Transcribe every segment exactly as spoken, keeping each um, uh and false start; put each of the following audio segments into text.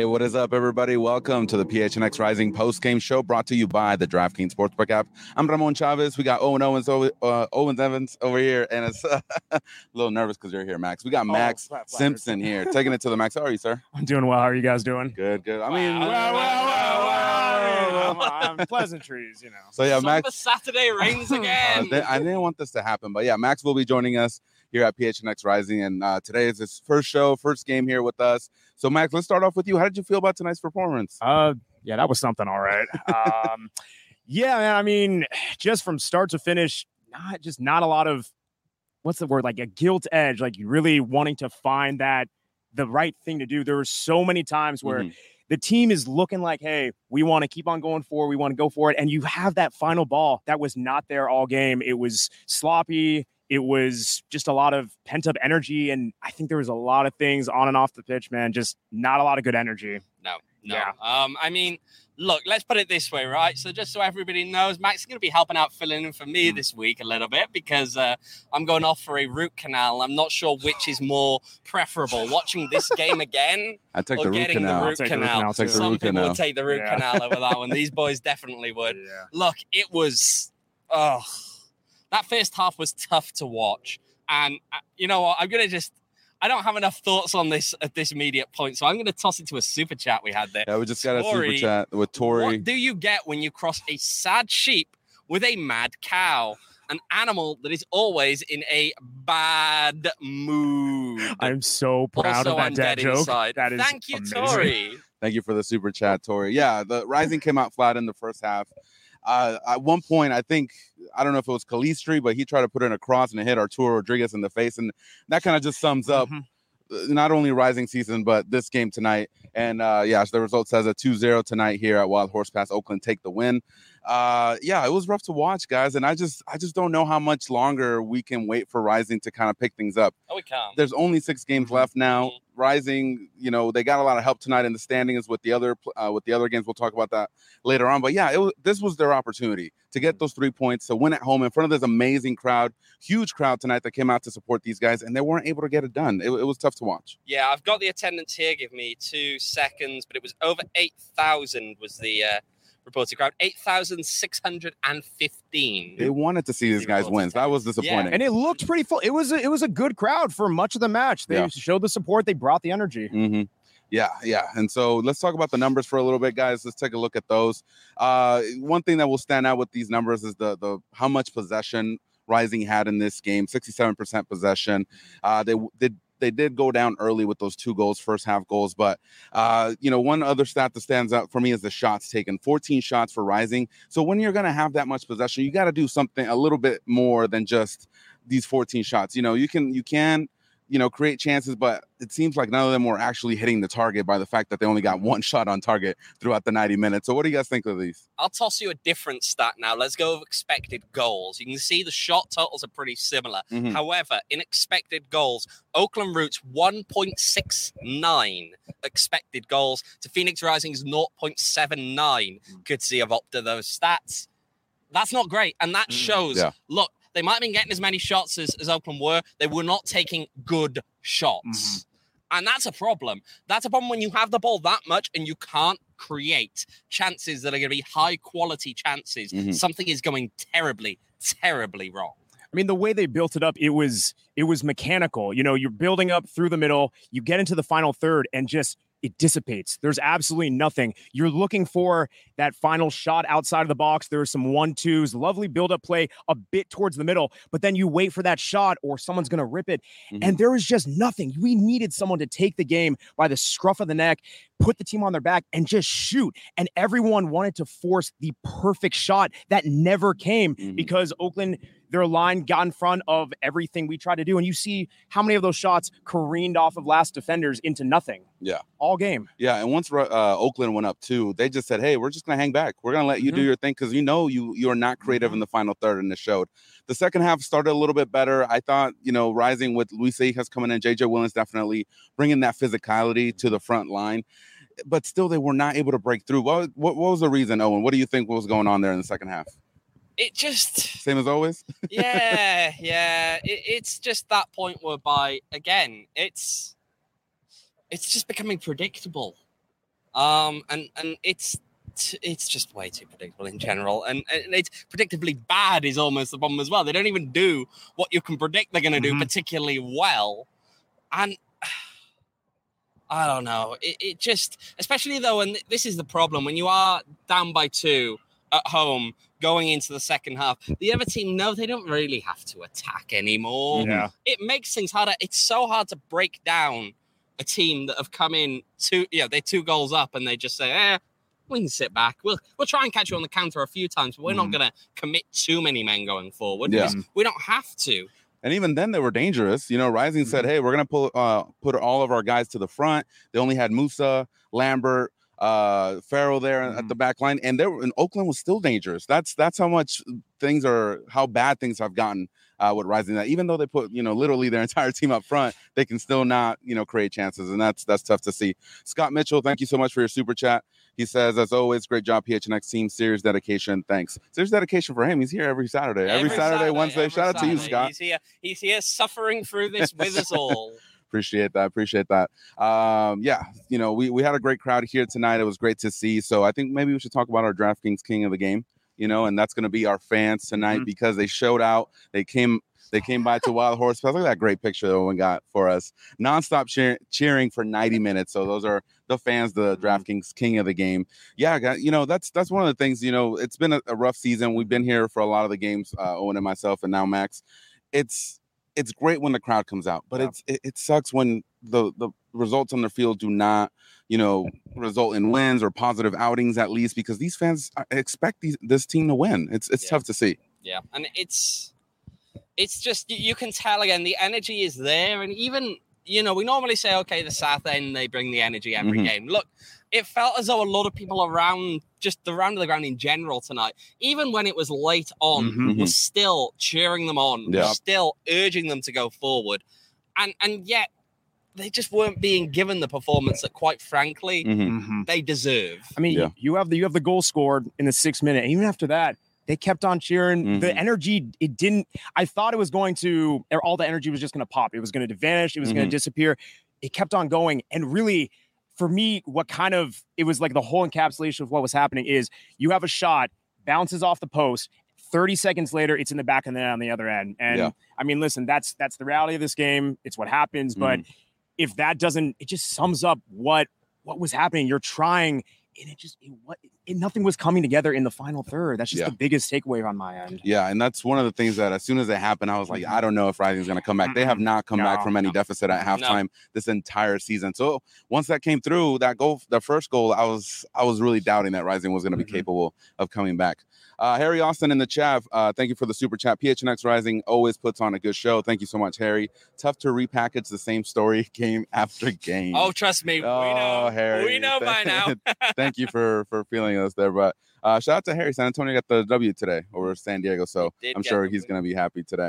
Hey, what is up, everybody? Welcome to the P H N X Rising post-game show brought to you by the DraftKings Sportsbook app. I'm Ramon Chavez. We got Owen Owens over, uh, Owens Evans over here, and it's uh, a little nervous because you're here, Max. We got Max oh, Simpson here, taking it to the max. How are you, sir? I'm doing well. How are you guys doing? Good, good. I mean, well, well, well, well, well, I mean, pleasantries, you know. So yeah, Some Max. of Saturday rains again. uh, I didn't want this to happen, but yeah, Max will be joining us here at P H N X Rising, and uh, today is his first show, first game here with us. So, Max, let's start off with you. How did you feel about tonight's performance? Uh, yeah, that was something, all right. um, yeah, man. I mean, just from start to finish, not just not a lot of what's the word, like a guilt edge, like you really wanting to find that the right thing to do. There were so many times where mm-hmm. the team is looking like, hey, we want to keep on going forward. We want to go for it. And you have that final ball that was not there all game. It was sloppy. It was just a lot of pent-up energy, and I think there was a lot of things on and off the pitch, man, just not a lot of good energy. No, no. Yeah. Um, I mean, look, let's put it this way, right? So just so everybody knows, Max is going to be helping out, filling in for me mm. this week a little bit because uh, I'm going off for a root canal. I'm not sure which is more preferable, watching this game again I take or the root getting canal. the root I'll canal. I'll take the Some root people canal. would take the root yeah. canal over that one. These boys definitely would. Yeah. Look, it was, oh, that first half was tough to watch. And uh, you know what? I'm going to just, I don't have enough thoughts on this at this immediate point. So I'm going to toss it to a super chat we had there. Yeah, we just Tori, got a super chat with Tori. What do you get when you cross a sad sheep with a mad cow? An animal that is always in a bad mood. I'm so proud also, of that I'm dad dead joke. Inside. That is Thank you, amazing. Tori. Thank you for the super chat, Tori. Yeah, the Rising came out flat in the first half. Uh, at one point, I think, I don't know if it was Calistri, but he tried to put in a cross and it hit Arturo Rodriguez in the face. And that kind of just sums up mm-hmm. not only Rising season, but this game tonight. And uh, yeah, the result says a two zero tonight here at Wild Horse Pass. Oakland take the win. Uh, yeah, it was rough to watch, guys. And I just I just don't know how much longer we can wait for Rising to kind of pick things up. Oh, we can't. There's only six games left now. Mm-hmm. Rising, you know, they got a lot of help tonight in the standings with the other uh, with the other games. We'll talk about that later on. But yeah, it was, this was their opportunity to get those three points, to win at home in front of this amazing crowd, huge crowd tonight that came out to support these guys, and they weren't able to get it done. It, it was tough to watch. Yeah, I've got the attendance here. Give me two seconds, but it was over eight thousand was the uh, reported crowd. eight thousand six hundred fifteen. They wanted to see these guys win. That was disappointing. Yeah. And it looked pretty full. It was a, it was a good crowd for much of the match. They yeah. showed the support. They brought the energy. Mm-hmm. Yeah, yeah. And so let's talk about the numbers for a little bit, guys. Let's take a look at those. Uh, one thing that will stand out with these numbers is the the how much possession Rising had in this game. sixty-seven percent possession. Uh, they did. They did go down early with those two goals, first half goals. But, uh, you know, one other stat that stands out for me is the shots taken, fourteen shots for Rising. So when you're going to have that much possession, you got to do something a little bit more than just these fourteen shots. You know, you can, you can, you know, create chances, but it seems like none of them were actually hitting the target by the fact that they only got one shot on target throughout the ninety minutes. So what do you guys think of these? I'll toss you a different stat now. Let's go with expected goals. You can see the shot totals are pretty similar. Mm-hmm. However, in expected goals, Oakland Roots one point six nine expected goals to Phoenix Rising's zero point seven nine. Could see of Opta those stats. That's not great. And that shows, yeah. look, they might have been getting as many shots as, as Oakland were. They were not taking good shots. Mm-hmm. And that's a problem. That's a problem when you have the ball that much and you can't create chances that are going to be high-quality chances. Mm-hmm. Something is going terribly, terribly wrong. I mean, the way they built it up, it was it was mechanical. You know, you're building up through the middle. You get into the final third and just it dissipates. There's absolutely nothing. You're looking for that final shot outside of the box. There are some one-twos, lovely build-up play a bit towards the middle, but then you wait for that shot or someone's going to rip it, mm-hmm. and there is just nothing. We needed someone to take the game by the scruff of the neck, put the team on their back, and just shoot. And everyone wanted to force the perfect shot that never came mm-hmm. because Oakland, their line got in front of everything we tried to do. And you see how many of those shots careened off of last defenders into nothing. Yeah. All game. Yeah. And once uh, Oakland went up too, they just said, hey, we're just going to hang back. We're going to let you mm-hmm. do your thing because you know you you are not creative mm-hmm. in the final third, and it showed. The second half started a little bit better. I thought, you know, Rising with Luis Seijas coming in, J J Williams definitely bringing that physicality to the front line. But still, they were not able to break through. What, what, what was the reason, Owen? What do you think was going on there in the second half? It just... Same as always? yeah, yeah. It, it's just that point whereby, again, it's it's just becoming predictable. Um, and and it's it's just way too predictable in general, and, and it's predictably bad is almost the problem as well. They don't even do what you can predict they're going to Mm-hmm. do particularly well, and I don't know. It, it just, especially though, and this is the problem when you are down by two at home going into the second half, the other team know they don't really have to attack anymore. Yeah. It makes things harder. It's so hard to break down a team that have come in two, yeah, they're two goals up and they just say, eh, we can sit back. We'll we'll try and catch you on the counter a few times, but we're Mm-hmm. not going to commit too many men going forward. Yeah. Because we don't have to. And even then, they were dangerous. You know, Rising Mm-hmm. said, "Hey, we're gonna pull, uh, put all of our guys to the front." They only had Musa, Lambert, uh, Farrell there Mm-hmm. at the back line, and they were, and Oakland was still dangerous. That's that's how much things are, how bad things have gotten uh, with Rising. That even though they put, you know, literally their entire team up front, they can still not, you know, create chances, and that's that's tough to see. Scott Mitchell, thank you so much for your super chat. He says, as always, great job, P H N X team. Serious dedication. Thanks. Serious dedication for him. He's here every Saturday. Every, Saturday, Wednesday. every Shout out to you, Saturday. Scott. He's here. He's here suffering through this with us all. Appreciate that. Appreciate that. Um, yeah, you know, we, we had a great crowd here tonight. It was great to see. So I think maybe we should talk about our DraftKings King of the Game, you know, and that's going to be our fans tonight Mhm. because they showed out. They came They came by to Wild Horse Fest. Look at that great picture that one got for us. Nonstop cheer- cheering for ninety minutes. So those are the fans, the DraftKings King of the Game. Yeah, got- you know, that's that's one of the things, you know, it's been a, a rough season. We've been here for a lot of the games, uh, Owen and myself, and now Max. It's it's great when the crowd comes out, but Yeah. it's it, it sucks when the, the results on the field do not, you know, result in wins or positive outings at least, because these fans expect these, this team to win. It's it's Yeah. tough to see. Yeah, and it's it's just you, you can tell again the energy is there, and even you know we normally say okay the South End they bring the energy every Mhm. game. Look, it felt as though a lot of people around just around the ground in general tonight, even when it was late on, Mhm. was still cheering them on, Yeah. was still urging them to go forward, and and yet they just weren't being given the performance that, quite frankly, Mhm. Mm-hmm. they deserve. I mean, Yeah. you have the you have the goal scored in the sixth minute. And even after that, they kept on cheering. The Mhm. energy, it didn't. I thought it was going to. All the energy was just going to pop. It was going to vanish. It was going Mhm. to disappear. It kept on going. And really, for me, what kind of it was like the whole encapsulation of what was happening is you have a shot, bounces off the post. thirty seconds later, it's in the back of the net on the other end. And Yeah. I mean, listen, that's that's the reality of this game. It's what happens. But if that doesn't, it just sums up what what was happening. You're trying, and it just it, what it, nothing was coming together in the final third. That's just Yeah. the biggest takeaway on my end. Yeah, and that's one of the things that as soon as it happened, I was like, I don't know if Rising's going to come back. They have not come back No, from any no. deficit at No. halftime this entire season. So once that came through, that goal, the first goal, I was I was really doubting that Rising was going to be Mhm. capable of coming back. Uh, Harry Austin in the chat, uh, thank you for the super chat. P H N X Rising always puts on a good show. Thank you so much, Harry. Tough to repackage the same story game after game. Oh, trust me, we Oh, know, Harry. we know by now. Thank you for for feeling us there, but uh, shout out to Harry. San Antonio got the W today over San Diego, so He did I'm get sure the he's win. going to be happy today.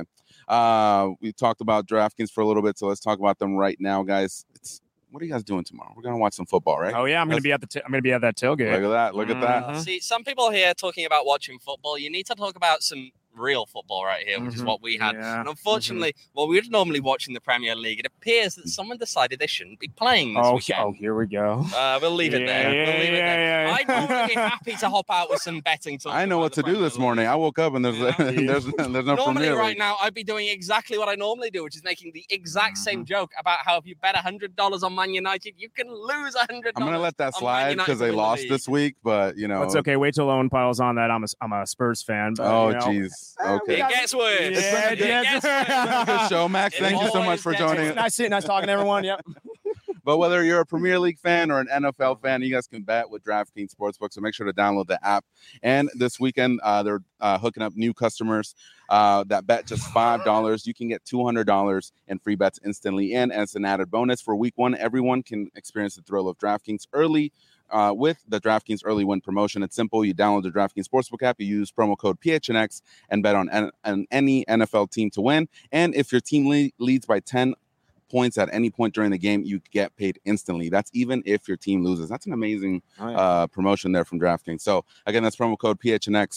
Uh, we talked about DraftKings for a little bit, so let's talk about them right now, guys. It's what are you guys doing tomorrow? We're gonna watch some football, right? Oh yeah, I'm gonna That's- be at the. T- I'm gonna be at that Look tailgate. at that! Look at that! Mhm. See, some people here talking about watching football. You need to talk about some real football right here, which is Mhm. what we had. Yeah. And unfortunately, well, we're normally watching the Premier League. It appears that someone decided they shouldn't be playing this Oh, he- weekend. oh, here we go. Uh, we'll leave it Yeah, there. yeah, we'll leave it yeah, there. yeah. I'd normally be happy to hop out with some betting. talk I know about what the to do Premier this morning. League. I woke up and there's Yeah. there's there's no Normally, Premier right League. now, I'd be doing exactly what I normally do, which is making the exact same Mm-hmm. joke about how if you bet one hundred dollars on Man United, you can lose one hundred dollars. I'm gonna let that on Man slide United because to they win the lost league. this week, but you know. It's okay. Wait till Owen piles on that. I'm a I'm a Spurs fan. But, Oh you know. jeez. Eh, we Okay. It got- gets worse. Yeah, It's been a it good- gets It gets worse. Good show, Max. It Thank you so much always for gets joining. worse. Nice sitting, nice talking to everyone. Yep. But whether you're a Premier League fan or an N F L fan, you guys can bet with DraftKings Sportsbook. So make sure to download the app. And this weekend, uh, they're uh, hooking up new customers uh, that bet just five dollars. You can get two hundred dollars in free bets instantly. And as an added bonus for week one, everyone can experience the thrill of DraftKings early uh, with the DraftKings Early Win promotion. It's simple. You download the DraftKings Sportsbook app. You use promo code P H N X and bet on, an, on any N F L team to win. And if your team le- leads by ten points at any point during the game, you get paid instantly. That's even if your team loses. That's an amazing Oh, yeah. uh, promotion there from DraftKings. So again, that's promo code P H N X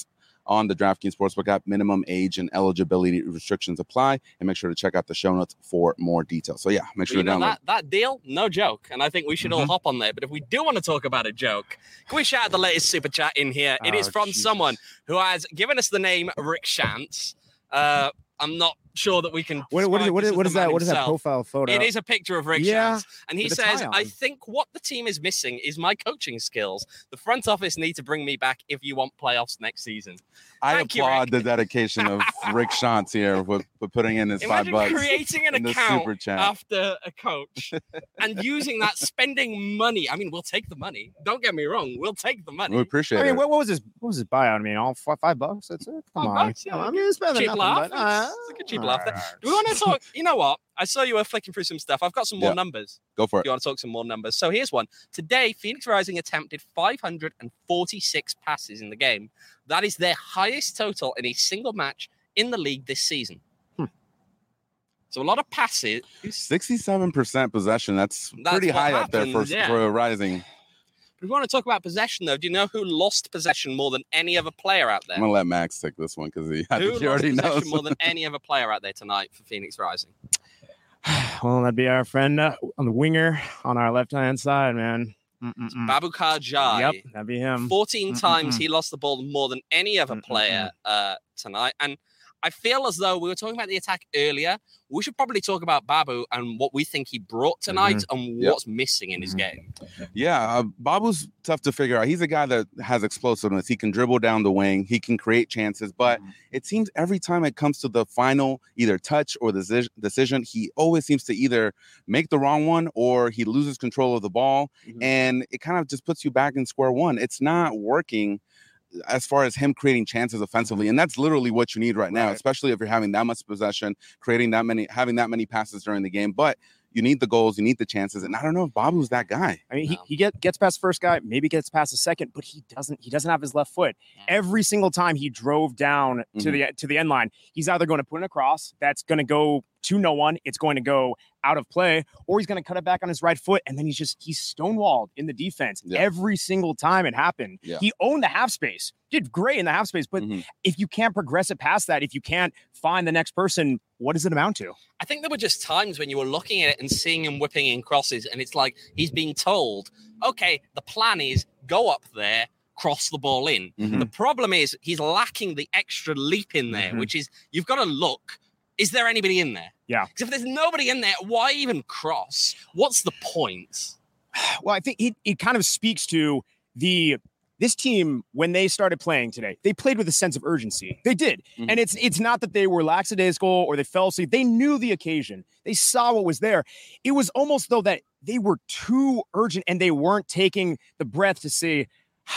on the DraftKings Sportsbook app. Minimum age and eligibility restrictions apply. And make sure to check out the show notes for more details. So, yeah, make sure you to know, download. That, that deal, no joke. And I think we should Mm-hmm. all hop on there. But if we do want to talk about a joke, can we shout out the latest super chat in here? It Oh, is from Jesus. someone who has given us the name Rick Shantz. Uh, I'm not sure that we can. What, what is describe what this is as what the is that? man What is that himself. profile photo? It is a picture of Rick Yeah, Shantz. And he with the says, tie I on. think think what the team is missing is my coaching skills. The front office need to bring me back if you want playoffs next season. I Thank you, applaud Rick. the dedication of Rick Shantz here with, with putting in his Imagine five bucks creating an in the account super chat. after a coach and using that, spending money. I mean, we'll take the money. Don't get me wrong. We'll take the money. We appreciate I mean, it. what, what was his what was his buyout? I mean, all five, five bucks. That's it. Come Five on. bucks, yeah, Come on. I okay. mean, it's better than Cheap nothing, laugh. but, uh, It's like a cheap laugh there. alright. Do we want to talk? You know what? I saw you were flicking through some stuff. I've got some more Yeah. numbers. Go for If it. you want to talk some more numbers. So here's one. Today, Phoenix Rising attempted five hundred forty-six passes in the game. That is their highest total in a single match in the league this season. Hmm. So a lot of passes. sixty-seven percent possession. That's, That's pretty what high up there for, happens, yeah. for Rising. If we want to talk about possession, though, do you know who lost possession more than any other player out there? I'm going to let Max take this one because he, I Who think he lost already possession knows. more than any other player out there tonight for Phoenix Rising? Well, that'd be our friend uh, on the winger on our left hand side, man. Mm-mm-mm. Babukar Jai. Yep, that'd be him. fourteen times Mm-mm-mm. he lost the ball more than any other Mm-mm-mm. player uh, tonight. And I feel as though we were talking about the attack earlier. We should probably talk about Babu and what we think he brought tonight and Yep. what's missing in his game. Yeah, uh, Babu's tough to figure out. He's a guy that has explosiveness. He can dribble down the wing. He can create chances. But it seems every time it comes to the final either touch or the deci- decision, he always seems to either make the wrong one or he loses control of the ball. Mhm. And it kind of just puts you back in square one. It's not working as far as him creating chances offensively. And that's literally what you need right now, Right. especially if you're having that much possession, creating that many, having that many passes during the game. But you need the goals, you need the chances. And I don't know if Babu's that guy. I mean, he, No. he get, gets past the first guy, maybe gets past the second, but he doesn't. He doesn't have his left foot. Every single time he drove down to Mhm. the to the end line, he's either going to put in a cross that's going to go to no one, it's going to go out of play, or he's going to cut it back on his right foot, and then he's just he's stonewalled in the defense Yeah. every single time it happened. Yeah. He owned the half space, did great in the half space, but Mhm. if you can't progress it past that, if you can't find the next person, what does it amount to? I think there were just times when you were looking at it and seeing him whipping in crosses, and it's like he's being told, okay, the plan is go up there, cross the ball in. Mhm. The problem is he's lacking the extra leap in there, Mhm. which is you've got to look. Is there anybody in there? Yeah. Because if there's nobody in there, why even cross? What's the point? Well, I think it, it kind of speaks to the this team when they started playing today. They played with a sense of urgency. They did, Mhm. and it's it's not that they were lackadaisical or they fell asleep. They knew the occasion. They saw what was there. It was almost though that they were too urgent and they weren't taking the breath to say,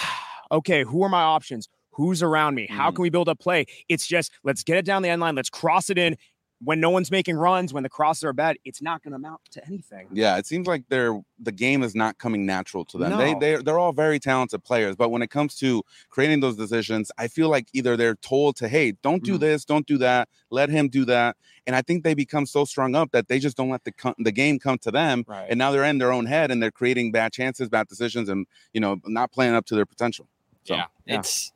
"Okay, who are my options? Who's around me? How Mhm. can we build up play?" It's just let's get it down the end line. Let's cross it in. When no one's making runs, when the crosses are bad, it's not going to amount to anything. Yeah, it seems like they're the game is not coming natural to them. They No. they they're all very talented players, but when it comes to creating those decisions, I feel like either they're told to, hey, don't do Mhm. this, don't do that, let him do that, and I think they become so strung up that they just don't let the co- the game come to them, Right. and now they're in their own head and they're creating bad chances, bad decisions, and you know not playing up to their potential. So yeah, yeah. it's.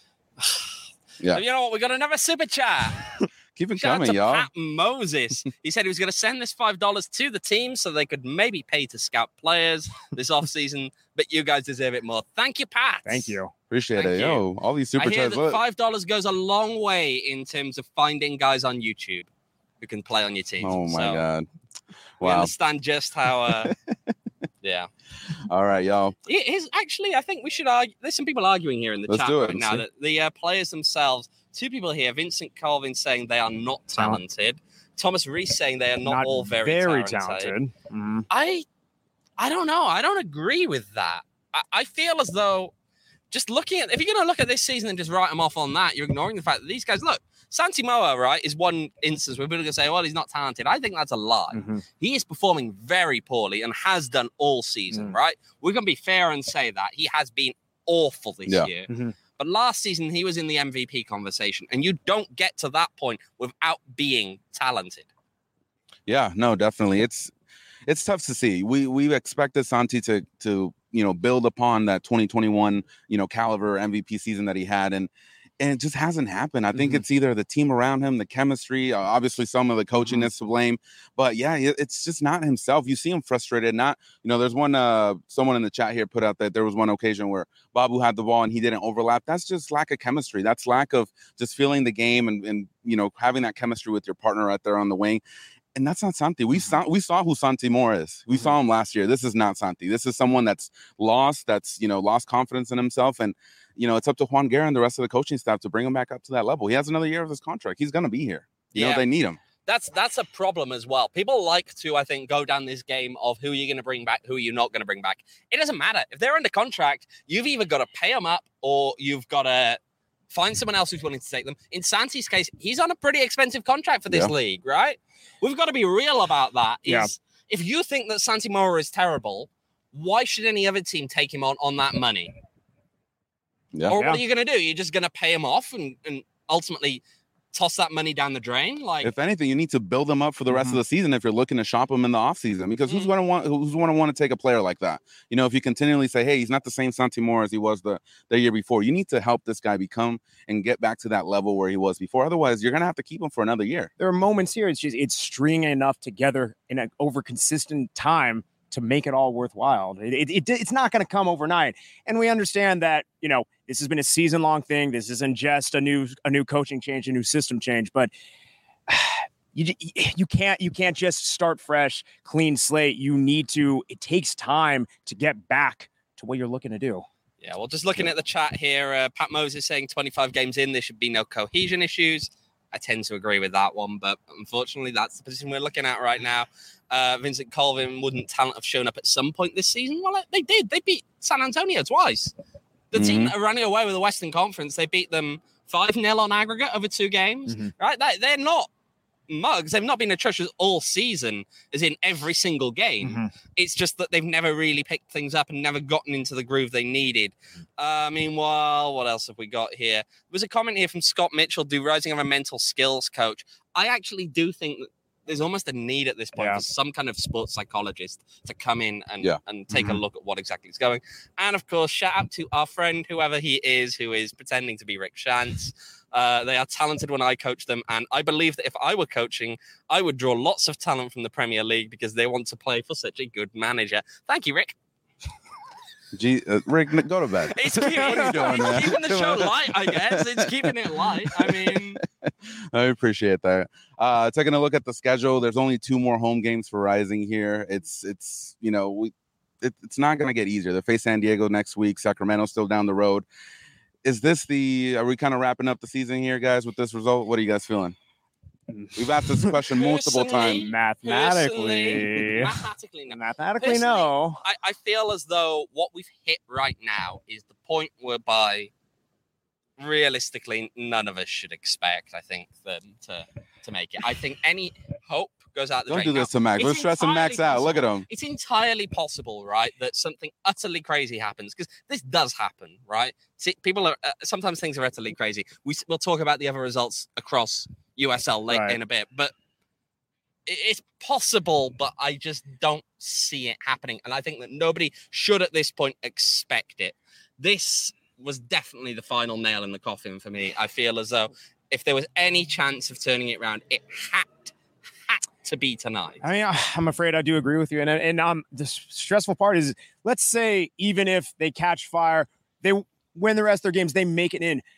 Yeah. You know what? We got another super chat. keep it Shout out coming, to y'all. Pat Moses. He said he was going to send this five dollars to the team so they could maybe pay to scout players this offseason, but you guys deserve it more. Thank you, Pat. Thank you. Appreciate Thank it, you. yo. All these super I hear chats. that Look. five dollars goes a long way in terms of finding guys on YouTube who can play on your team. Oh my So god! We Wow. understand just how. Uh, yeah. All right, y'all. It is actually, I think we should argue. There's some people arguing here in the Let's chat do it right and now see. that the uh, players themselves, two people here, Vincent Colvin saying they are not Talent. talented, Thomas Reese saying they are not, all very, talented. talented. Mhm. I, I don't know. I don't agree with that. I, I feel as though just looking at, if you're going to look at this season and just write them off on that, you're ignoring the fact that these guys, look, Santi Moa, right, is one instance where people are going to say, well, he's not talented. I think that's a lie. Mhm. He is performing very poorly and has done all season, Mm. right? We're going to be fair and say that. He has been awful this Yeah. year. Mhm. But last season, he was in the M V P conversation. And you don't get to that point without being talented. Yeah, no, definitely. It's it's tough to see. We we expected Santi to to you know build upon that twenty twenty-one you know caliber M V P season that he had, and and it just hasn't happened. I think Mhm. it's either the team around him, the chemistry, uh, obviously some of the coaching Mhm. is to blame. But yeah, it- it's just not himself. You see him frustrated. Not, you know, there's one, uh, someone in the chat here put out that there was one occasion where Babu had the ball and he didn't overlap. That's just lack of chemistry. That's lack of just feeling the game and, and you know, having that chemistry with your partner right there on the wing. And that's not Santi. We saw we saw who Santi Moore is. We Mhm. saw him last year. This is not Santi. This is someone that's lost, that's, you know, lost confidence in himself. And, you know, it's up to Juan Guerra and the rest of the coaching staff to bring him back up to that level. He has another year of his contract. He's going to be here. You Yeah. know, they need him. That's that's a problem as well. People like to, I think, go down this game of who you're going to bring back, who you're not going to bring back. It doesn't matter. If they're under contract, you've either got to pay them up or you've got to find someone else who's willing to take them. In Santi's case, he's on a pretty expensive contract for this Yeah. league, right? We've got to be real about that. Is Yeah. if you think that Santi Mora is terrible, why should any other team take him on on that money? Yeah. Or Yeah. what are you going to do? You're just going to pay him off and, and ultimately toss that money down the drain? Like, If anything, you need to build them up for the rest Mhm. of the season if you're looking to shop them in the offseason. Because who's Mhm. going to want who's going to want to take a player like that? You know, if you continually say, "Hey, he's not the same Santi Moore as he was the, the year before," you need to help this guy become and get back to that level where he was before. Otherwise, you're going to have to keep him for another year. There are moments here. It's just it's stringing enough together in an over consistent time to make it all worthwhile. It, it, it it's not going to come overnight, and we understand that. You know, this has been a season long thing. This isn't just a new a new coaching change, a new system change, but. You, you can't you can't just start fresh, clean slate. You need to. It takes time to get back to what you're looking to do. yeah, well, just looking at the chat here, uh, Pat Moses saying twenty-five games in, there should be no cohesion issues. I tend to agree with that one, but unfortunately, that's the position we're looking at right now. Uh, Vincent Colvin, wouldn't talent have shown up at some point this season? Well, they did. They beat San Antonio twice. The team that are running away with the Western Conference, they beat them five nil on aggregate over two games, Mhm. right? That, they're not mugs. They've not been atrocious all season, as in every single game. Mhm. It's just that they've never really picked things up and never gotten into the groove they needed. Uh, meanwhile, what else have we got here? There was a comment here from Scott Mitchell, do Rising have a mental skills coach? I actually do think that there's almost a need at this point Yeah. for some kind of sports psychologist to come in and, Yeah. and take a Mhm. look at what exactly is going. And of course, shout out to our friend, whoever he is, who is pretending to be Rick Shantz. Uh, they are talented when I coach them. And I believe that if I were coaching, I would draw lots of talent from the Premier League because they want to play for such a good manager. Thank you, Rick. Gee, uh, Rick, go to bed. It's keeping, What are you doing, it's man? keeping the show light, I guess. It's keeping it light. I mean, I appreciate that. Uh, taking a look at the schedule, there's only two more home games for Rising here. It's it's you know we it, it's not going to get easier. They face San Diego next week. Sacramento still down the road. Is this the? Are we kind of wrapping up the season here, guys, with this result? What are you guys feeling? We've asked this question multiple Personally, times. Mathematically, mathematically, no. mathematically, Personally, no. I, I feel as though what we've hit right now is the point whereby realistically none of us should expect, I think, them to, to make it. I think any hope goes out the Don't drain. do this to Max. It's We're stressing Max entirely out. Look at possible. him. It's entirely possible, right, that something utterly crazy happens because this does happen, right? See, people are uh, sometimes things are utterly crazy. We we'll talk about the other results across U S L late Right. in a bit, but it, it's possible. But I just don't see it happening, and I think that nobody should at this point expect it. This was definitely the final nail in the coffin for me. I feel as though if there was any chance of turning it around, it had had to be tonight. I mean, I'm afraid I do agree with you. And and um, the stressful part is, let's say even if they catch fire, they win the rest of their games, they make it in.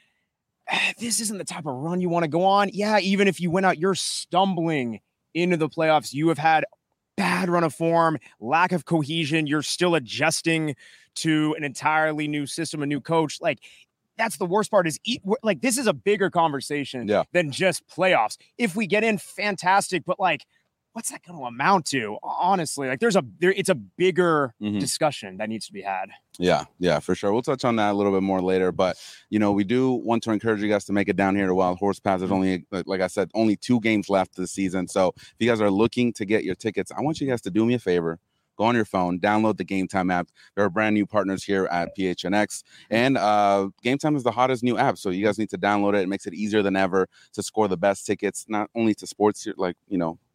This isn't the type of run you want to go on. Yeah, even if you went out, you're stumbling into the playoffs. You have had bad run of form, lack of cohesion. You're still adjusting to an entirely new system, a new coach. Like, that's the worst part is like, this is a bigger conversation Yeah. than just playoffs. If we get in, fantastic. But like, what's that going to amount to? Honestly, like there's a, there, it's a bigger Mhm. discussion that needs to be had. Yeah, yeah, for sure. We'll touch on that a little bit more later. But, you know, we do want to encourage you guys to make it down here to Wild Horse Pass. There's only, like I said, only two games left this season. So if you guys are looking to get your tickets, I want you guys to do me a favor. Go on your phone, download the Game Time app. There are brand new partners here at P H N X. And uh, Game Time is the hottest new app. So you guys need to download it. It makes it easier than ever to score the best tickets, not only to sports, like, you know,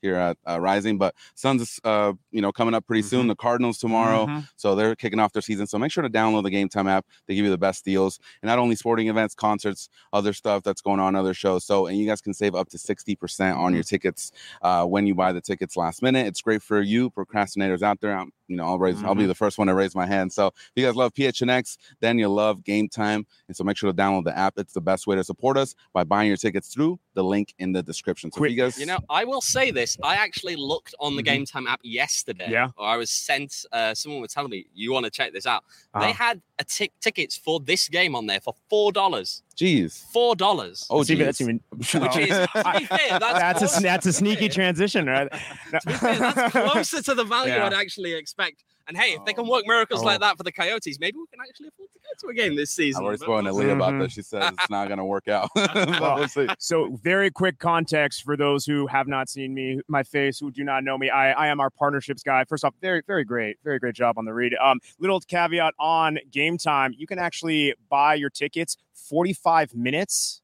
here at uh, Rising. But Suns is, uh, you know, coming up pretty mm-hmm. soon. The Cardinals tomorrow. Mm-hmm. So they're kicking off their season. So make sure to download the Game Time app. They give you the best deals. And not only sporting events, concerts, other stuff that's going on, other shows. So, and you guys can save up to sixty percent on your tickets uh, when you buy the tickets last minute. It's great for you procrastinators out there. I'm, you know, I'll raise, mm-hmm. I'll be the first one to raise my hand. So if you guys love P H N X, then you'll love Game Time. And so make sure to download the app. It's the best way to support us by buying your tickets through the link in the description. So if you guys, you know, I will say this. I actually looked on the mm-hmm. Game Time app yesterday. Yeah. Or I was sent, uh, someone was telling me, you want to check this out. Uh-huh. They had a t- tickets for this game on there for four dollars. Jeez. Four dollars. Oh, geez. That's even, which is, to be fair, that's, that's, a, that's a sneaky transition, right? To be fair, that's closer to the value yeah. I'd actually expect. And hey, if they can work miracles oh. like that for the Coyotes, maybe we can actually afford to go to a game this season. I already spoken to Leah about that. She says it's not going to work out. Well, we'll see. So very quick context for those who have not seen me, my face, who do not know me. I, I am our partnerships guy. First off, very, very great. Very great job on the read. Um, little caveat on Game Time. You can actually buy your tickets forty-five minutes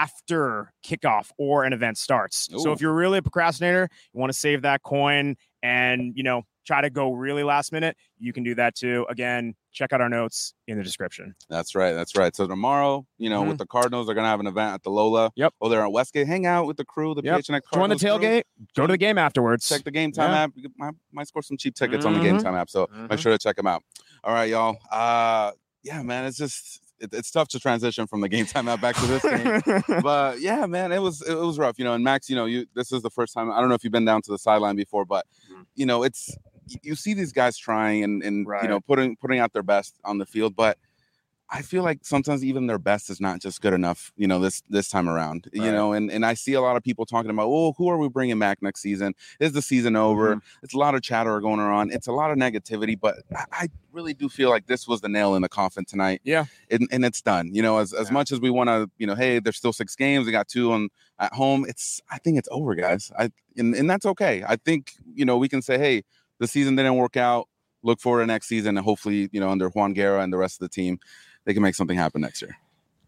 after kickoff or an event starts. Ooh. So if you're really a procrastinator, you want to save that coin and, you know, try to go really last minute, you can do that too. Again, check out our notes in the description. That's right. That's right. So tomorrow, you know, mm-hmm. with the Cardinals, they're going to have an event at the Lola. Yep. Oh, they're at Westgate. Hang out with the crew, the yep. P H N X Cardinals Join the tailgate. Crew. Go to the game afterwards. Check the Game Time yeah. app. You might, might score some cheap tickets mm-hmm. on the Game Time app. So mm-hmm. make sure to check them out. All right, y'all. Uh, yeah, man, it's just... it's tough to transition from the Game Time app back to this game, but yeah, man, it was it was rough, you know. And Max, you know, you this is the first time. I don't know if you've been down to the sideline before, but you know, it's you see these guys trying and and right. you know putting putting out their best on the field, but I feel like sometimes even their best is not just good enough, you know, this this time around, right. you know, and, and I see a lot of people talking about, oh, who are we bringing back next season? Is the season over? Mm-hmm. It's a lot of chatter going on. It's a lot of negativity, but I, I really do feel like this was the nail in the coffin tonight. Yeah. And, and it's done, you know, as, as yeah. much as we want to, you know, hey, there's still six games. We got two on at home. It's, I think it's over, guys. I, and, and that's okay. I think, you know, we can say, hey, the season didn't work out. Look forward to next season. And hopefully, you know, under Juan Guerra and the rest of the team, they can make something happen next year.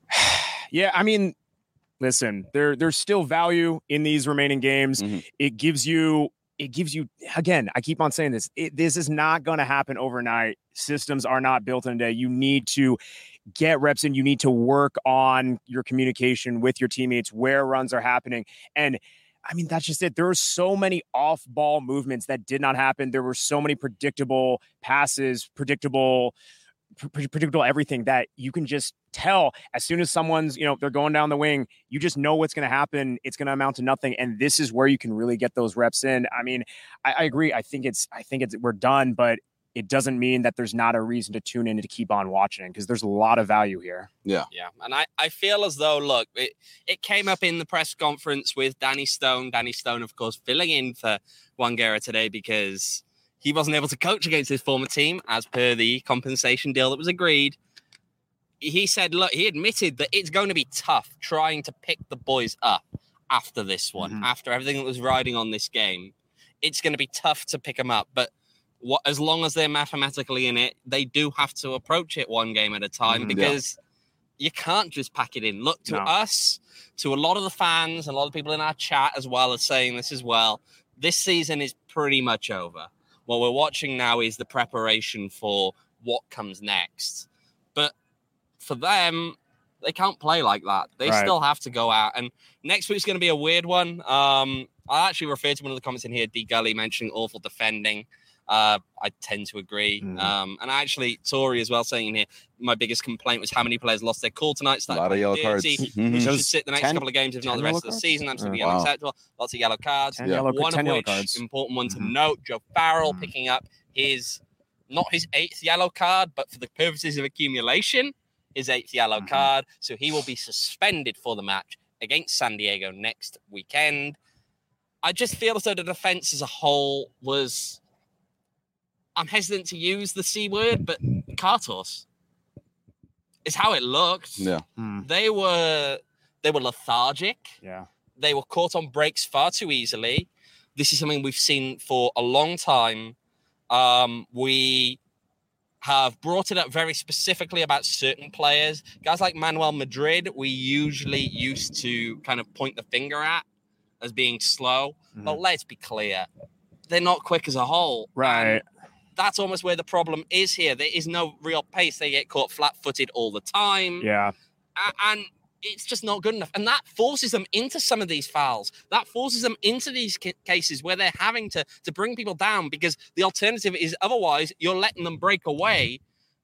Yeah, I mean, listen, there there's still value in these remaining games. Mm-hmm. It gives you, it gives you, again, I keep on saying this, it, this is not going to happen overnight. Systems are not built in a day. You need to get reps in. You need to work on your communication with your teammates, where runs are happening. And I mean, that's just it. There were so many off-ball movements that did not happen. There were so many predictable passes, predictable predictable everything that you can just tell as soon as someone's, you know, they're going down the wing, you just know what's going to happen. It's going to amount to nothing. And this is where you can really get those reps in. I mean, I, I agree. I think it's, I think it's, we're done, but it doesn't mean that there's not a reason to tune in and to keep on watching because there's a lot of value here. Yeah. Yeah. And I, I feel as though, look, it, it came up in the press conference with Danny Stone. Danny Stone, of course, filling in for Juan Guerra today because he wasn't able to coach against his former team as per the compensation deal that was agreed. He said, look, he admitted that it's going to be tough trying to pick the boys up after this one, mm-hmm. after everything that was riding on this game. It's going to be tough to pick them up. But what, as long as they're mathematically in it, they do have to approach it one game at a time mm-hmm. because yeah. you can't just pack it in. Look, to no. us, to a lot of the fans, and a lot of people in our chat as well are saying this as well, this season is pretty much over. What we're watching now is the preparation for what comes next. But for them, they can't play like that. They right. still have to go out. And next week's going to be a weird one. Um, I actually referred to one of the comments in here, D. Gully mentioning awful defending. Uh, I tend to agree. Mm. Um, and actually, Tori as well saying in here, my biggest complaint was how many players lost their cool tonight. A lot of yellow cards. Mm-hmm. We should sit the next ten, couple of games, if not the rest of the season. Absolutely uh, unacceptable. Wow. Lots of yellow cards. Ten yellow, one ten of which, cards. important one to mm-hmm. note, Joe Farrell mm-hmm. picking up his, not his eighth yellow card, but for the purposes of accumulation, his eighth yellow mm-hmm. card. So he will be suspended for the match against San Diego next weekend. I just feel as though the defense as a whole was... I'm hesitant to use the C word, but Kartos is how it looked. Yeah. Mm. They were they were lethargic. Yeah. They were caught on breaks far too easily. This is something we've seen for a long time. Um, we have brought it up very specifically about certain players. Guys like Manuel Madrid, we usually used to kind of point the finger at as being slow, Mhm. but let's be clear, they're not quick as a whole. Right. And that's almost where the problem is here. There is no real pace. They get caught flat-footed all the time. Yeah. And it's just not good enough. And that forces them into some of these fouls. That forces them into these cases where they're having to, to bring people down, because the alternative is otherwise you're letting them break away.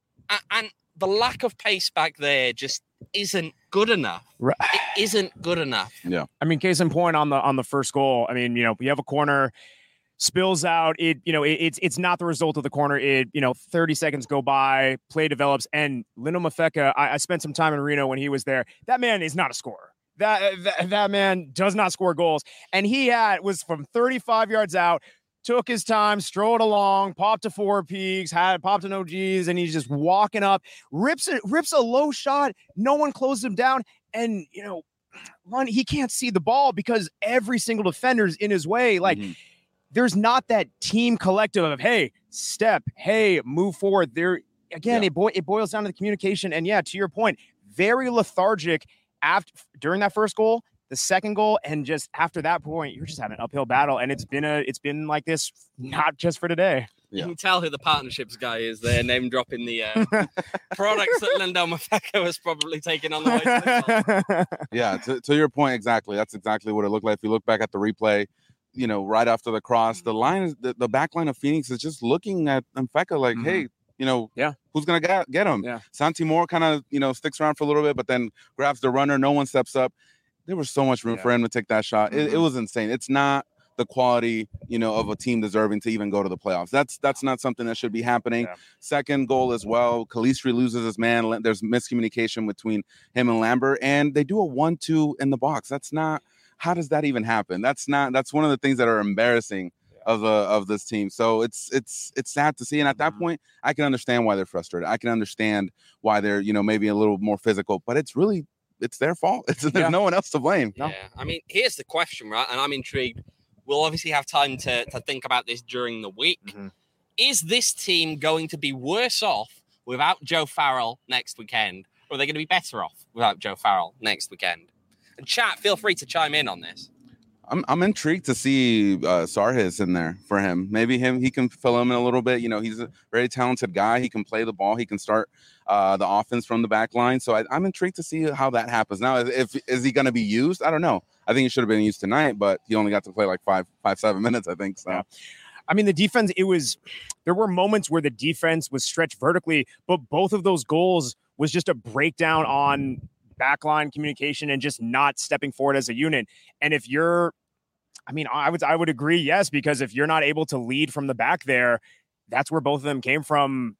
And the lack of pace back there just isn't good enough. Right. It isn't good enough. Yeah. I mean, case in point on the on the first goal. I mean, you know, we have a corner, spills out. It, you know, it, it's it's not the result of the corner. It, you know, thirty seconds go by, play develops, and Lino Mafeka. I, I spent some time in Reno when he was there. That man is not a scorer. That, that that man does not score goals, and he had was from thirty-five yards out. Took his time, strolled along, popped to four peaks, had popped an O Gs, and he's just walking up, rips it, rips a low shot. No one closed him down, and you know, run. He can't see the ball because every single defender's in his way. Like, Mm-hmm. there's not that team collective of hey, step, hey, move forward. There again, Yeah. it boy, it boils down to the communication, and yeah, to your point, very lethargic after during that first goal. The second goal, and just after that point, you're just having an uphill battle, and it's been a it's been like this not just for today. You Yeah. can tell who the partnerships guy is there, name dropping the uh, products that Lindell Mafeka was probably taking on the way to the goal. Yeah, to, to your point, exactly. That's exactly what it looked like. If you look back at the replay, you know, right after the cross, the line is the, the back line of Phoenix is just looking at Mfeka like, Mhm. hey, you know, Yeah. who's gonna get, get him? Yeah. Santi Moore kind of, you know, sticks around for a little bit, but then grabs the runner. No one steps up. There was so much room Yeah. for him to take that shot. It, it Mhm. was insane. It's not the quality, you know, of a team deserving to even go to the playoffs. That's that's not something that should be happening. Yeah. Second goal as well. Kalistri loses his man. There's miscommunication between him and Lambert, and they do a one two in the box. That's not. How does that even happen? That's not. That's one of the things that are embarrassing of the of this team. So it's it's it's sad to see. And at that Mhm. point, I can understand why they're frustrated. I can understand why they're, you know, maybe a little more physical. But it's really it's their fault. It's there's Yeah. no one else to blame. No. Yeah, I mean, here's the question, right? And I'm intrigued. We'll obviously have time to, to think about this during the week. Mhm. Is this team going to be worse off without Joe Farrell next weekend? Or are they going to be better off without Joe Farrell next weekend? And chat, feel free to chime in on this. I'm I'm intrigued to see uh, Sarhis in there for him. Maybe him he can fill him in a little bit. You know, he's a very talented guy. He can play the ball. He can start uh, the offense from the back line. So I, I'm intrigued to see how that happens. Now, if is he going to be used? I don't know. I think he should have been used tonight, but he only got to play like five five seven minutes. I think so. Yeah. I mean, the defense, it was, there were moments where the defense was stretched vertically, but both of those goals was just a breakdown on backline communication and just not stepping forward as a unit. And if you're, I mean, I would, I would agree. Yes. Because if you're not able to lead from the back there, that's where both of them came from.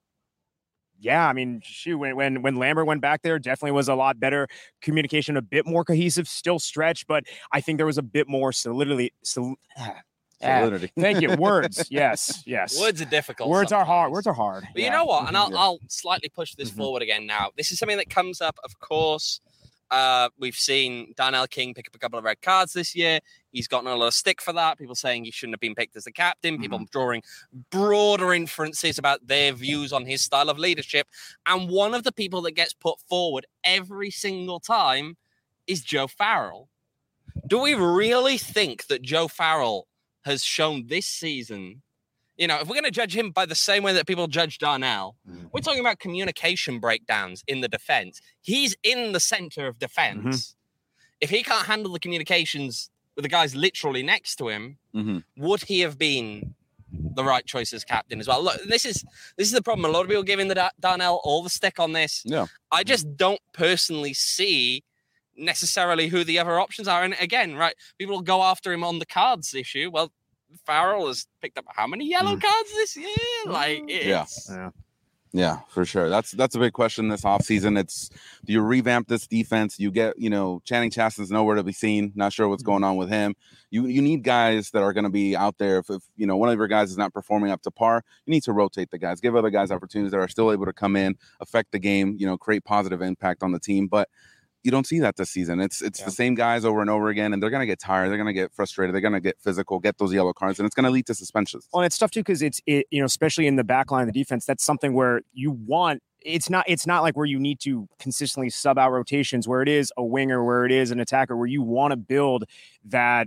Yeah. I mean, shoot, when, when, when Lambert went back there, definitely was a lot better communication, a bit more cohesive, still stretched, but I think there was a bit more solidity. Sol- Solidity. Thank you. Words. Yes. Yes. Words are difficult. Words are hard. sometimes. Words are hard. But Yeah. you know what? And I'll, Yeah. I'll slightly push this Mhm. forward again now. This is something that comes up, of course. Uh, we've seen Darnell King pick up a couple of red cards this year. He's gotten a lot of stick for that. People saying he shouldn't have been picked as the captain. People Mm-hmm. drawing broader inferences about their views on his style of leadership. And one of the people that gets put forward every single time is Joe Farrell. Do we really think that Joe Farrell has shown this season? You know, if we're going to judge him by the same way that people judge Darnell, Mhm. we're talking about communication breakdowns in the defense. He's in the center of defense. If he can't handle the communications with the guys literally next to him, hmm would he have been the right choice as captain as well? Look, this is this is the problem. A lot of people giving the Da- Darnell all the stick on this. Yeah. I just don't personally see necessarily who the other options are. And again, right, people will go after him on the cards issue. Well, Farrell has picked up how many yellow Mm. cards this year? Like, Yeah. it's, Yeah. Yeah, for sure. That's that's a big question this offseason. It's do you revamp this defense? You get, you know, Channing Chaston's nowhere to be seen. Not sure what's going on with him. You you need guys that are going to be out there. If, if you know one of your guys is not performing up to par, you need to rotate the guys. Give other guys opportunities that are still able to come in, affect the game, you know, create positive impact on the team. But you don't see that this season. It's it's Yeah. the same guys over and over again, and they're gonna get tired. They're gonna get frustrated. They're gonna get physical, get those yellow cards, and it's gonna lead to suspensions. Well, and it's tough too because it's it, you know, especially in the back line of the defense, that's something where you want. It's not. It's not like where you need to consistently sub out rotations. Where it is a winger, where it is an attacker, where you want to build that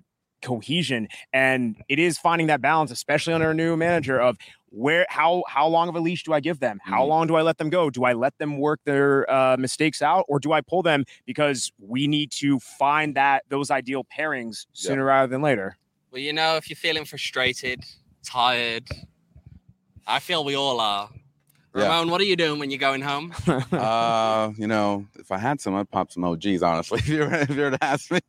cohesion. And it is finding that balance, especially under a new manager, of where, how, how long of a leash do I give them? How Mhm. long do I let them go? Do I let them work their uh, mistakes out, or do I pull them because we need to find that those ideal pairings sooner Yeah. rather than later? Well, you know, if you're feeling frustrated, tired, I feel we all are. Yeah. Ramon, what are you doing when you're going home? uh, you know, if I had some, I'd pop some O Gs. Honestly, if you were, if you were to ask me.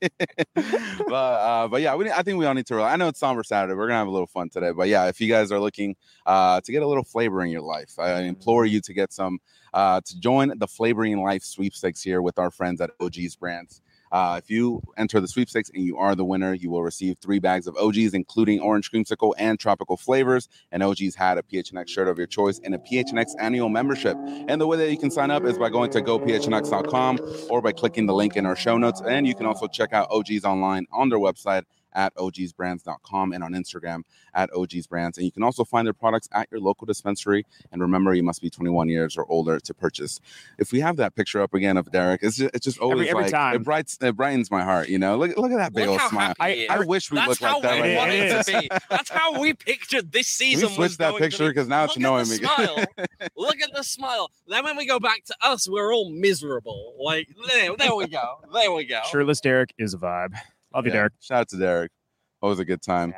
but uh, but yeah, we, I think we all need to. Relax. I know it's Somber Saturday. We're gonna have a little fun today. But yeah, if you guys are looking uh, to get a little flavor in your life, I implore you to get some uh, to join the Flavoring Life sweepstakes here with our friends at O G's Brands. Uh, if you enter the sweepstakes and you are the winner, you will receive three bags of O Gs, including orange creamsicle and tropical flavors. And O G's had a P H N X shirt of your choice and a P H N X annual membership. And the way that you can sign up is by going to go p h n x dot com or by clicking the link in our show notes. And you can also check out O G's online on their website at o gs brands dot com and on Instagram at O G's Brands. And you can also find their products at your local dispensary. And remember, you must be twenty-one years or older to purchase. If we have that picture up again of Derek, it's just, it's just always Every- every like, time. it, brightens, it brightens my heart, you know? Look, look at that big Look old how smile. happy he I, is. I wish we That's looked how like that we right It want now. is. it to be. That's how we pictured this season. switch was that going picture to be. 'cause now it's Look knowing at the me. smile. Look at the smile. Then when we go back to us, we're all miserable. Like there, there we go. There we go. Shirtless Derek is a vibe. Love you, Yeah. Derek. Shout out to Derek. Always a good time.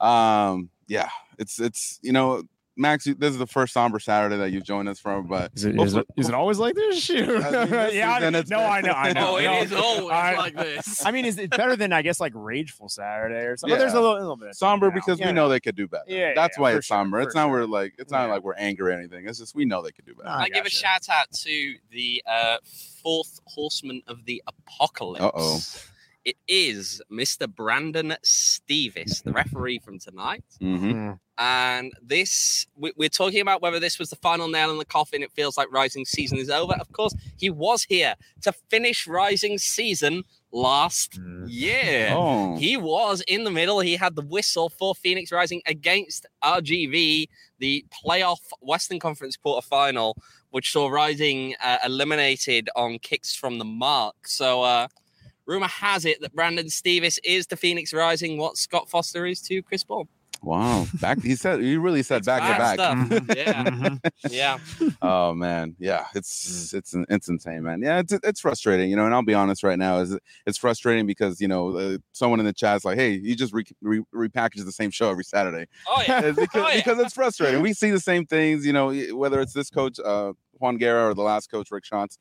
Um, yeah, it's it's you know, Max, you, this is the first Somber Saturday that you've joined us from, but Is it, is it, is it always like this? Shoot. I mean, this yeah, I, season it's no, been- I know, I know. Oh, it no. is always I- like this. I mean, is it better than, I guess, like Rageful Saturday or something? Yeah. There's a little, a little bit of somber something now. because Yeah, we know they could do better. Yeah, That's yeah, why for it's sure, somber. for It's not sure. we're like it's not Yeah. like we're angry or anything. It's just we know they could do better. I I give a gotcha. shout out to the uh, fourth horseman of the apocalypse. Uh-oh. It is Mister Brandon Stevis, the referee from tonight. Mm-hmm. Mm. And this, we- we're talking about whether this was the final nail in the coffin. It feels like Rising season is over. Of course, he was here to finish Rising season last Mm. year. Oh, He was in the middle. He had the whistle for Phoenix Rising against R G V, the playoff Western Conference quarterfinal, which saw Rising uh, eliminated on kicks from the mark. So, uh, rumor has it that Brandon Stevis is to Phoenix Rising what Scott Foster is to Chris Paul. wow! Back he said he really said It's back to bad back. stuff. Yeah, Mhm. yeah. Oh man, yeah, it's it's it's insane, man. Yeah, it's it's frustrating, you know. And I'll be honest right now, is it's frustrating because you know uh, someone in the chat's like, "Hey, you just re- re- repackage the same show every Saturday." Oh yeah. It's because, Oh, yeah. because it's frustrating. We see the same things, you know, whether it's this coach uh, Juan Guerra or the last coach Rick Schantz.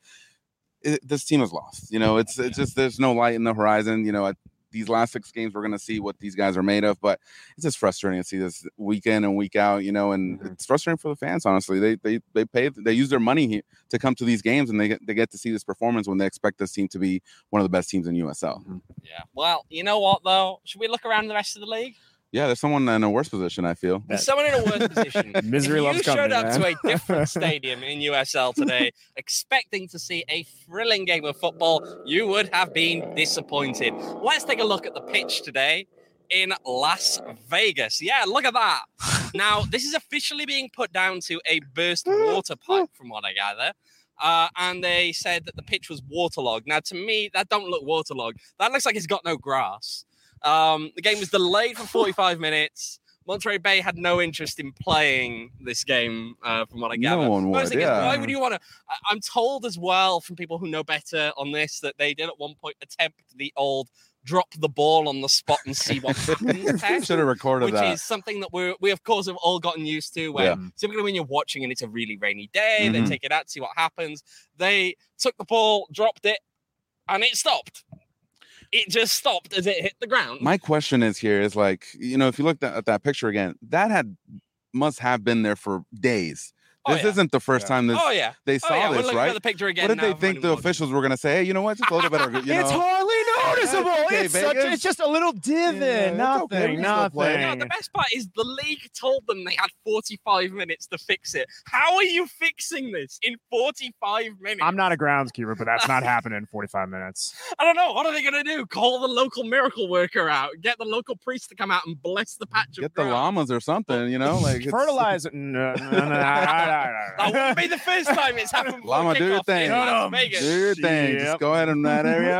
It, this team is lost. You know, it's it's just there's no light in the horizon. You know, at these last six games, we're gonna see what these guys are made of. But it's just frustrating to see this week in and week out. You know, and Mhm. it's frustrating for the fans. Honestly, they they they pay they use their money here to come to these games, and they get they get to see this performance when they expect this team to be one of the best teams in U S L. Yeah. Well, you know what though? Should we look around the rest of the league? Yeah, there's someone in a worse position. I feel. There's someone in a worse position. Misery if loves you showed company, up man. to a different stadium in U S L today, expecting to see a thrilling game of football, you would have been disappointed. Let's take a look at the pitch today in Las Vegas. Yeah, look at that. Now, this is officially being put down to a burst water pipe, from what I gather. Uh, and they said that the pitch was waterlogged. Now, to me, that don't look waterlogged. That looks like it's got no grass. Um, the game was delayed for forty-five minutes. Monterey Bay had no interest in playing this game, uh, from what I gather. No one But I was would. thinking, Yeah. why would you want to? I'm told as well from people who know better on this that they did at one point attempt the old drop the ball on the spot and see what happens test, Should have recorded which that. is something that we we of course have all gotten used to. Where Yeah. typically when you're watching and it's a really rainy day, they Mhm. take it out to see what happens. They took the ball, dropped it, and it stopped. It just stopped as it hit the ground. My question is here is like, you know, if you look at, at that picture again, that had must have been there for days. Oh, This yeah. isn't the first Yeah. time this oh yeah, they oh saw yeah. We're this, looking right? at the picture again. What did now they for think the anyone. officials were going to say? Hey, you know what? Just a little bit of, you know. It's hardly noticeable. Okay, it's such. Vegas. It's just a little divot. Yeah, it's nothing. okay. We can still play. nothing. No, the best part is the league told them they had forty-five minutes to fix it. How are you fixing this in forty-five minutes? I'm not a groundskeeper, but that's not happening in forty-five minutes. I don't know. What are they going to do? Call the local miracle worker out? Get the local priest to come out and bless the patch of Get the ground? llamas or something, you know, like it's- Fertilizer. No, no, no, no, no, no, That no. wouldn't be the first time it's happened. before Llama, do your kickoff thing. in No, Las no. Vegas. Do your thing. Yep. Just go ahead in that area.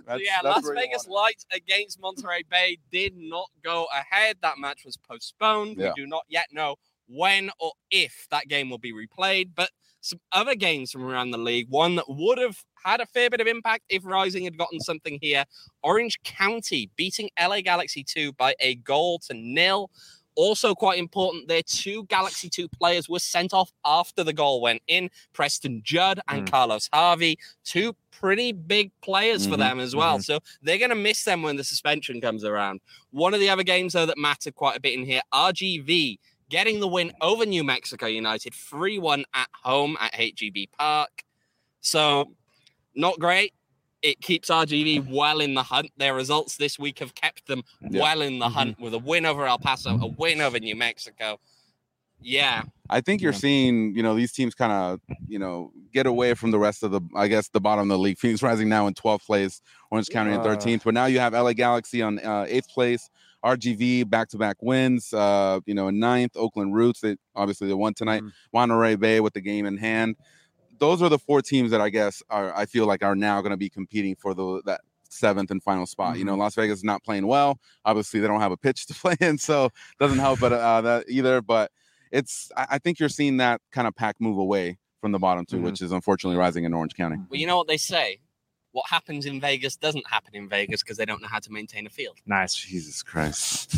That's, yeah, that's Las where you Vegas want Lights against Monterey Bay did not go ahead. That match was postponed. Yeah. We do not yet know when or if that game will be replayed, but some other games from around the league, one that would have had a fair bit of impact if Rising had gotten something here. Orange County beating L A Galaxy two by a goal to nil. Also quite important, their two Galaxy two players were sent off after the goal went in. Preston Judd and Mm. Carlos Harvey, two pretty big players Mhm, for them as well. mhm. So they're going to miss them when the suspension comes around. One of the other games, though, that mattered quite a bit in here, R G V getting the win over New Mexico United, three one at home at H E B Park. So not great. It keeps R G V well in the hunt. Their results this week have kept them Yeah. well in the Mhm. hunt with a win over El Paso, a win over New Mexico. Yeah. I think you're Yeah. seeing, you know, these teams kind of, you know, get away from the rest of the, I guess, the bottom of the league. Phoenix Rising now in twelfth place, Orange County in Uh. thirteenth, but now you have L A Galaxy on uh, eighth place, R G V back-to-back wins, uh, you know, in ninth, Oakland Roots, they obviously they won tonight, Mhm. Monterey Bay with the game in hand. Those are the four teams that I guess are, I feel like are now going to be competing for the that seventh and final spot. You know, Las Vegas is not playing well. Obviously, they don't have a pitch to play in, so doesn't help but uh, that either. But it's I, I think you're seeing that kind of pack move away from the bottom two, Mhm. which is unfortunately Rising in Orange County. Well, you know what they say? What happens in Vegas doesn't happen in Vegas because they don't know how to maintain a field. Nice. Jesus Christ!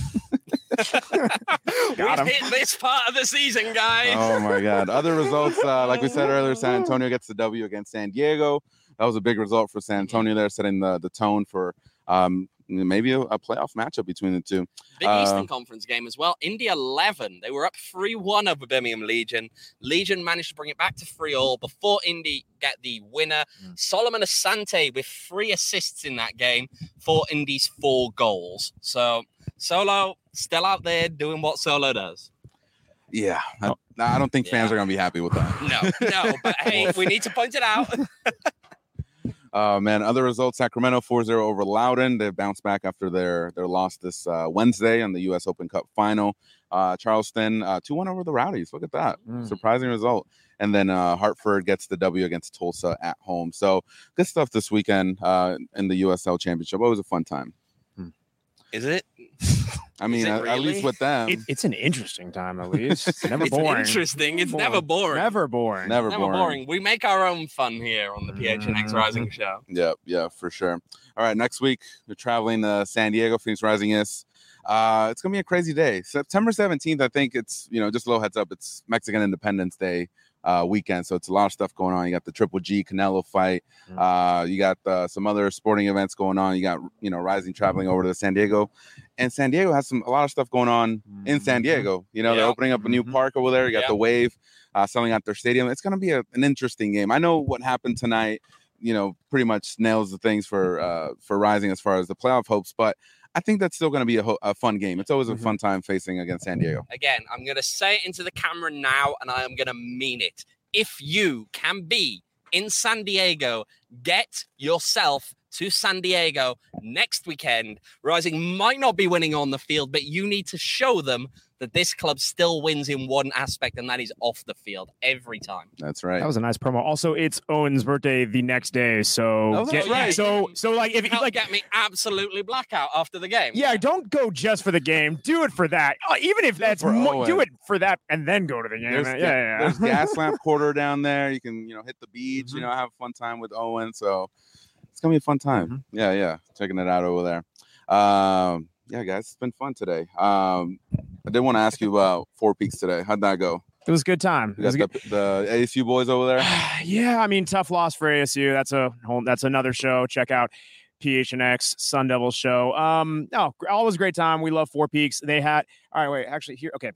We've him. hit this part of the season, guys. Oh my God! Other results, uh, like we said earlier, San Antonio gets the W against San Diego. That was a big result for San Antonio there, setting the the tone for um, maybe a, a playoff matchup between the two. Big Uh, Eastern Conference game as well. Indy eleven. They were up three one over Birmingham Legion. Legion managed to bring it back to three all before Indy get the winner. Mm. Solomon Asante with three assists in that game for Indy's four goals. So Solo still out there doing what Solo does. Yeah, I, I don't think fans Yeah. are gonna be happy with that. No, no, but hey, we need to point it out. Uh, man, other results: Sacramento four zero over Loudoun. They bounced back after their their loss this uh, Wednesday on the U S Open Cup final. Uh, Charleston uh, two one over the Rowdies. Look at that, Mm. surprising result. And then uh, Hartford gets the W against Tulsa at home. So good stuff this weekend uh, in the U S L Championship. Always a fun time. Is it? I mean, it at, at really? least with them, It, it's an interesting time, at least. It's never It's boring. interesting. It's Boring. never boring. Never boring. never, Never boring. boring. We make our own fun here on the P H N X Mhm. Rising Show. Yeah, yeah, for sure. All right, next week we're traveling to San Diego. Phoenix Rising is. Uh, it's gonna be a crazy day. September seventeenth. I think it's you know just a little heads up. It's Mexican Independence Day uh, weekend, so it's a lot of stuff going on. You got the Triple G Canelo fight. Mhm. Uh, you got uh, some other sporting events going on. You got you know Rising traveling over to San Diego, and San Diego has some a lot of stuff going on in San Mhm. Diego. You know they're Yeah. opening up a new Mhm. park over there. You got Yeah. the Wave uh, selling out their stadium. It's gonna be a, an interesting game. I know what happened tonight. You know, pretty much nails the things for uh, for Rising as far as the playoff hopes, but I think that's still going to be a, ho- a fun game. It's always a Mhm. fun time facing against San Diego. Again, I'm going to say it into the camera now, and I am going to mean it. If you can be in San Diego, get yourself to San Diego next weekend. Rising might not be winning on the field, but you need to show them that this club still wins in one aspect, and that is off the field every time. That's right. That was a nice promo. Also, it's Owen's birthday the next day, so Oh, that's get- right. So, so like if you Help like, get me absolutely blackout after the game. yeah, don't go just for the game. Do it for that. Oh, even if Do it that's for mo- Owen. do it for that and then go to the game. There's, yeah, ga- yeah, yeah. there's gas lamp quarter down there. You can, you know, hit the beach, you Mhm. know, have a fun time with Owen. So it's gonna be a fun time. Mhm. Yeah, yeah. Checking it out over there. Um, yeah, guys, it's been fun today. Um, I did want to ask you about Four Peaks today. How'd that go? It was a good time. You It was got a good- the, the A S U boys over there. yeah, I mean, tough loss for A S U. That's a whole. That's another show. Check out P H N X Sun Devil show. Um, no, always a great time. We love Four Peaks. They had. All right, wait. Actually, here. Okay,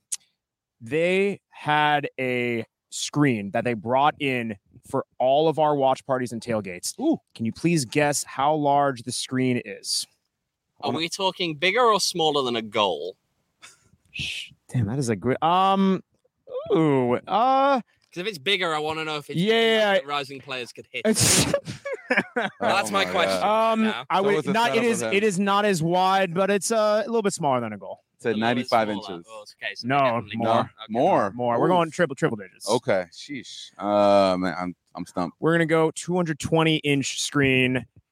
they had a screen that they brought in for all of our watch parties and tailgates. Ooh, can you please guess how large the screen is? Are we talking bigger or smaller than a goal? Shh, damn, that is a great. Um, ooh, uh, Because if it's bigger, I want to know if it's Yeah. that Rising players could hit. it's. That's Oh my my question. God. Um, now. I So would what's the not. It setup is. with him? It is not as wide, but it's uh, a little bit smaller than a goal. It's at A little bit ninety-five smaller. inches. Oh, okay, so No, definitely more. No, Okay. more, More. We're Oof. going triple triple digits. Okay, sheesh. Uh, man, I'm I'm stumped. We're gonna go two hundred twenty inch screen,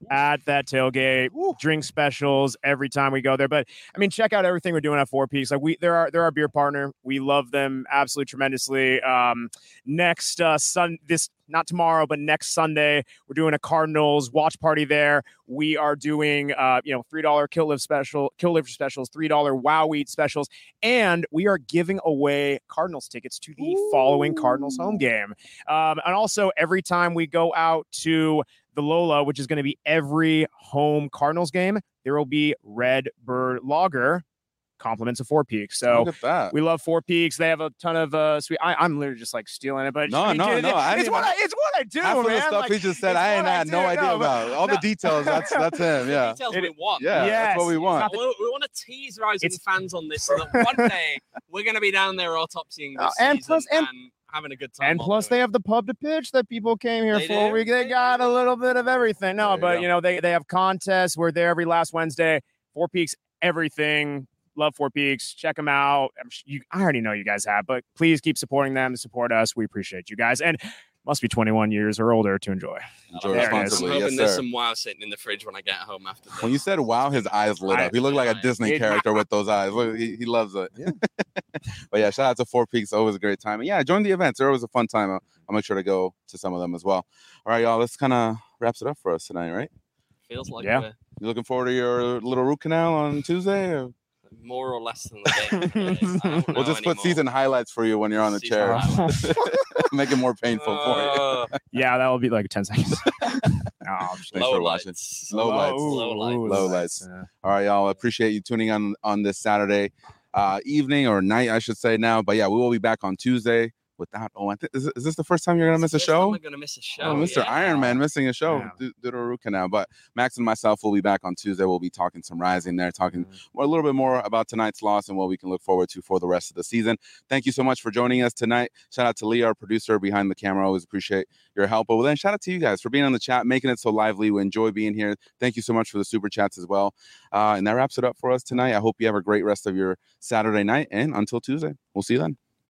at that tailgate. Woo. Drink specials every time we go there. But I mean, check out everything we're doing at Four Peaks. Like we, they're our, they're our beer partner. We love them absolutely tremendously. Um, next uh, sun, this not tomorrow, but next Sunday, we're doing a Cardinals watch party there. We are doing, uh, you know, three dollar Kill Live special, Kill Live specials, three dollar Wow Eat specials, and we are giving away Cardinals tickets to the Ooh. following Cardinals home game. Um, and also, every time we go out to the Lola, which is going to be every home Cardinals game, there will be Red Bird Lager. Compliments of Four Peaks. So we love Four Peaks. They have a ton of uh sweet. I, I'm literally just like stealing it, but no, no, no. It, it's what I, it's what I do, half man. Of the stuff like, he just said, I ain't had no idea no, about all no. the details. That's that's him. Yeah, the details we want. Yeah, yes. that's what we want. We, we want to tease Rising it's, fans on this so that one day we're going to be down there autopsying this and season plus, and, and having a good time. And plus, they have the pub to pitch that people came here they for. Do. We they got a little bit of everything. No, but you, you know they they have contests. We're there every last Wednesday. Four Peaks, everything. Love Four Peaks. Check them out. You, I already know you guys have, but please keep supporting them. Support us. We appreciate you guys. And must be twenty-one years or older to enjoy. Enjoy there responsibly. I'm hoping yes, there's sir. some wow sitting in the fridge when I get home after this. When you said wow, his eyes lit up. He looked like a Disney character with those eyes. Look, he, he loves it. Yeah. But yeah, shout out to Four Peaks. Always a great time. And yeah, join the events. They're always a fun time. I'll, I'll make sure to go to some of them as well. All right, y'all. This kind of wraps it up for us tonight, right? Feels like yeah. We're... You looking forward to your little root canal on Tuesday? Or? More or less than the game. We'll just anymore. put season highlights for you when you're on the season chair. Make it more painful uh, for you. Yeah, that will be like ten seconds. No, Thanks low for lights. watching. Low, low lights. Low lights. Low, low lights. Yeah. All right, y'all. Appreciate you tuning on on this Saturday uh, evening or night, I should say now. But yeah, we will be back on Tuesday. Without, oh, I think is, is this the first time you're gonna miss a show? I'm gonna miss a show. Oh, Mister Yeah. Iron Man missing a show Yeah. due, due to a root canal. But Max and myself will be back on Tuesday. We'll be talking some Rising there, talking Mm-hmm. more, a little bit more about tonight's loss and what we can look forward to for the rest of the season. Thank you so much for joining us tonight. Shout out to Lee, our producer behind the camera. Always appreciate your help. But then shout out to you guys for being on the chat, making it so lively. We enjoy being here. Thank you so much for the super chats as well. Uh, and that wraps it up for us tonight. I hope you have a great rest of your Saturday night. And until Tuesday, we'll see you then.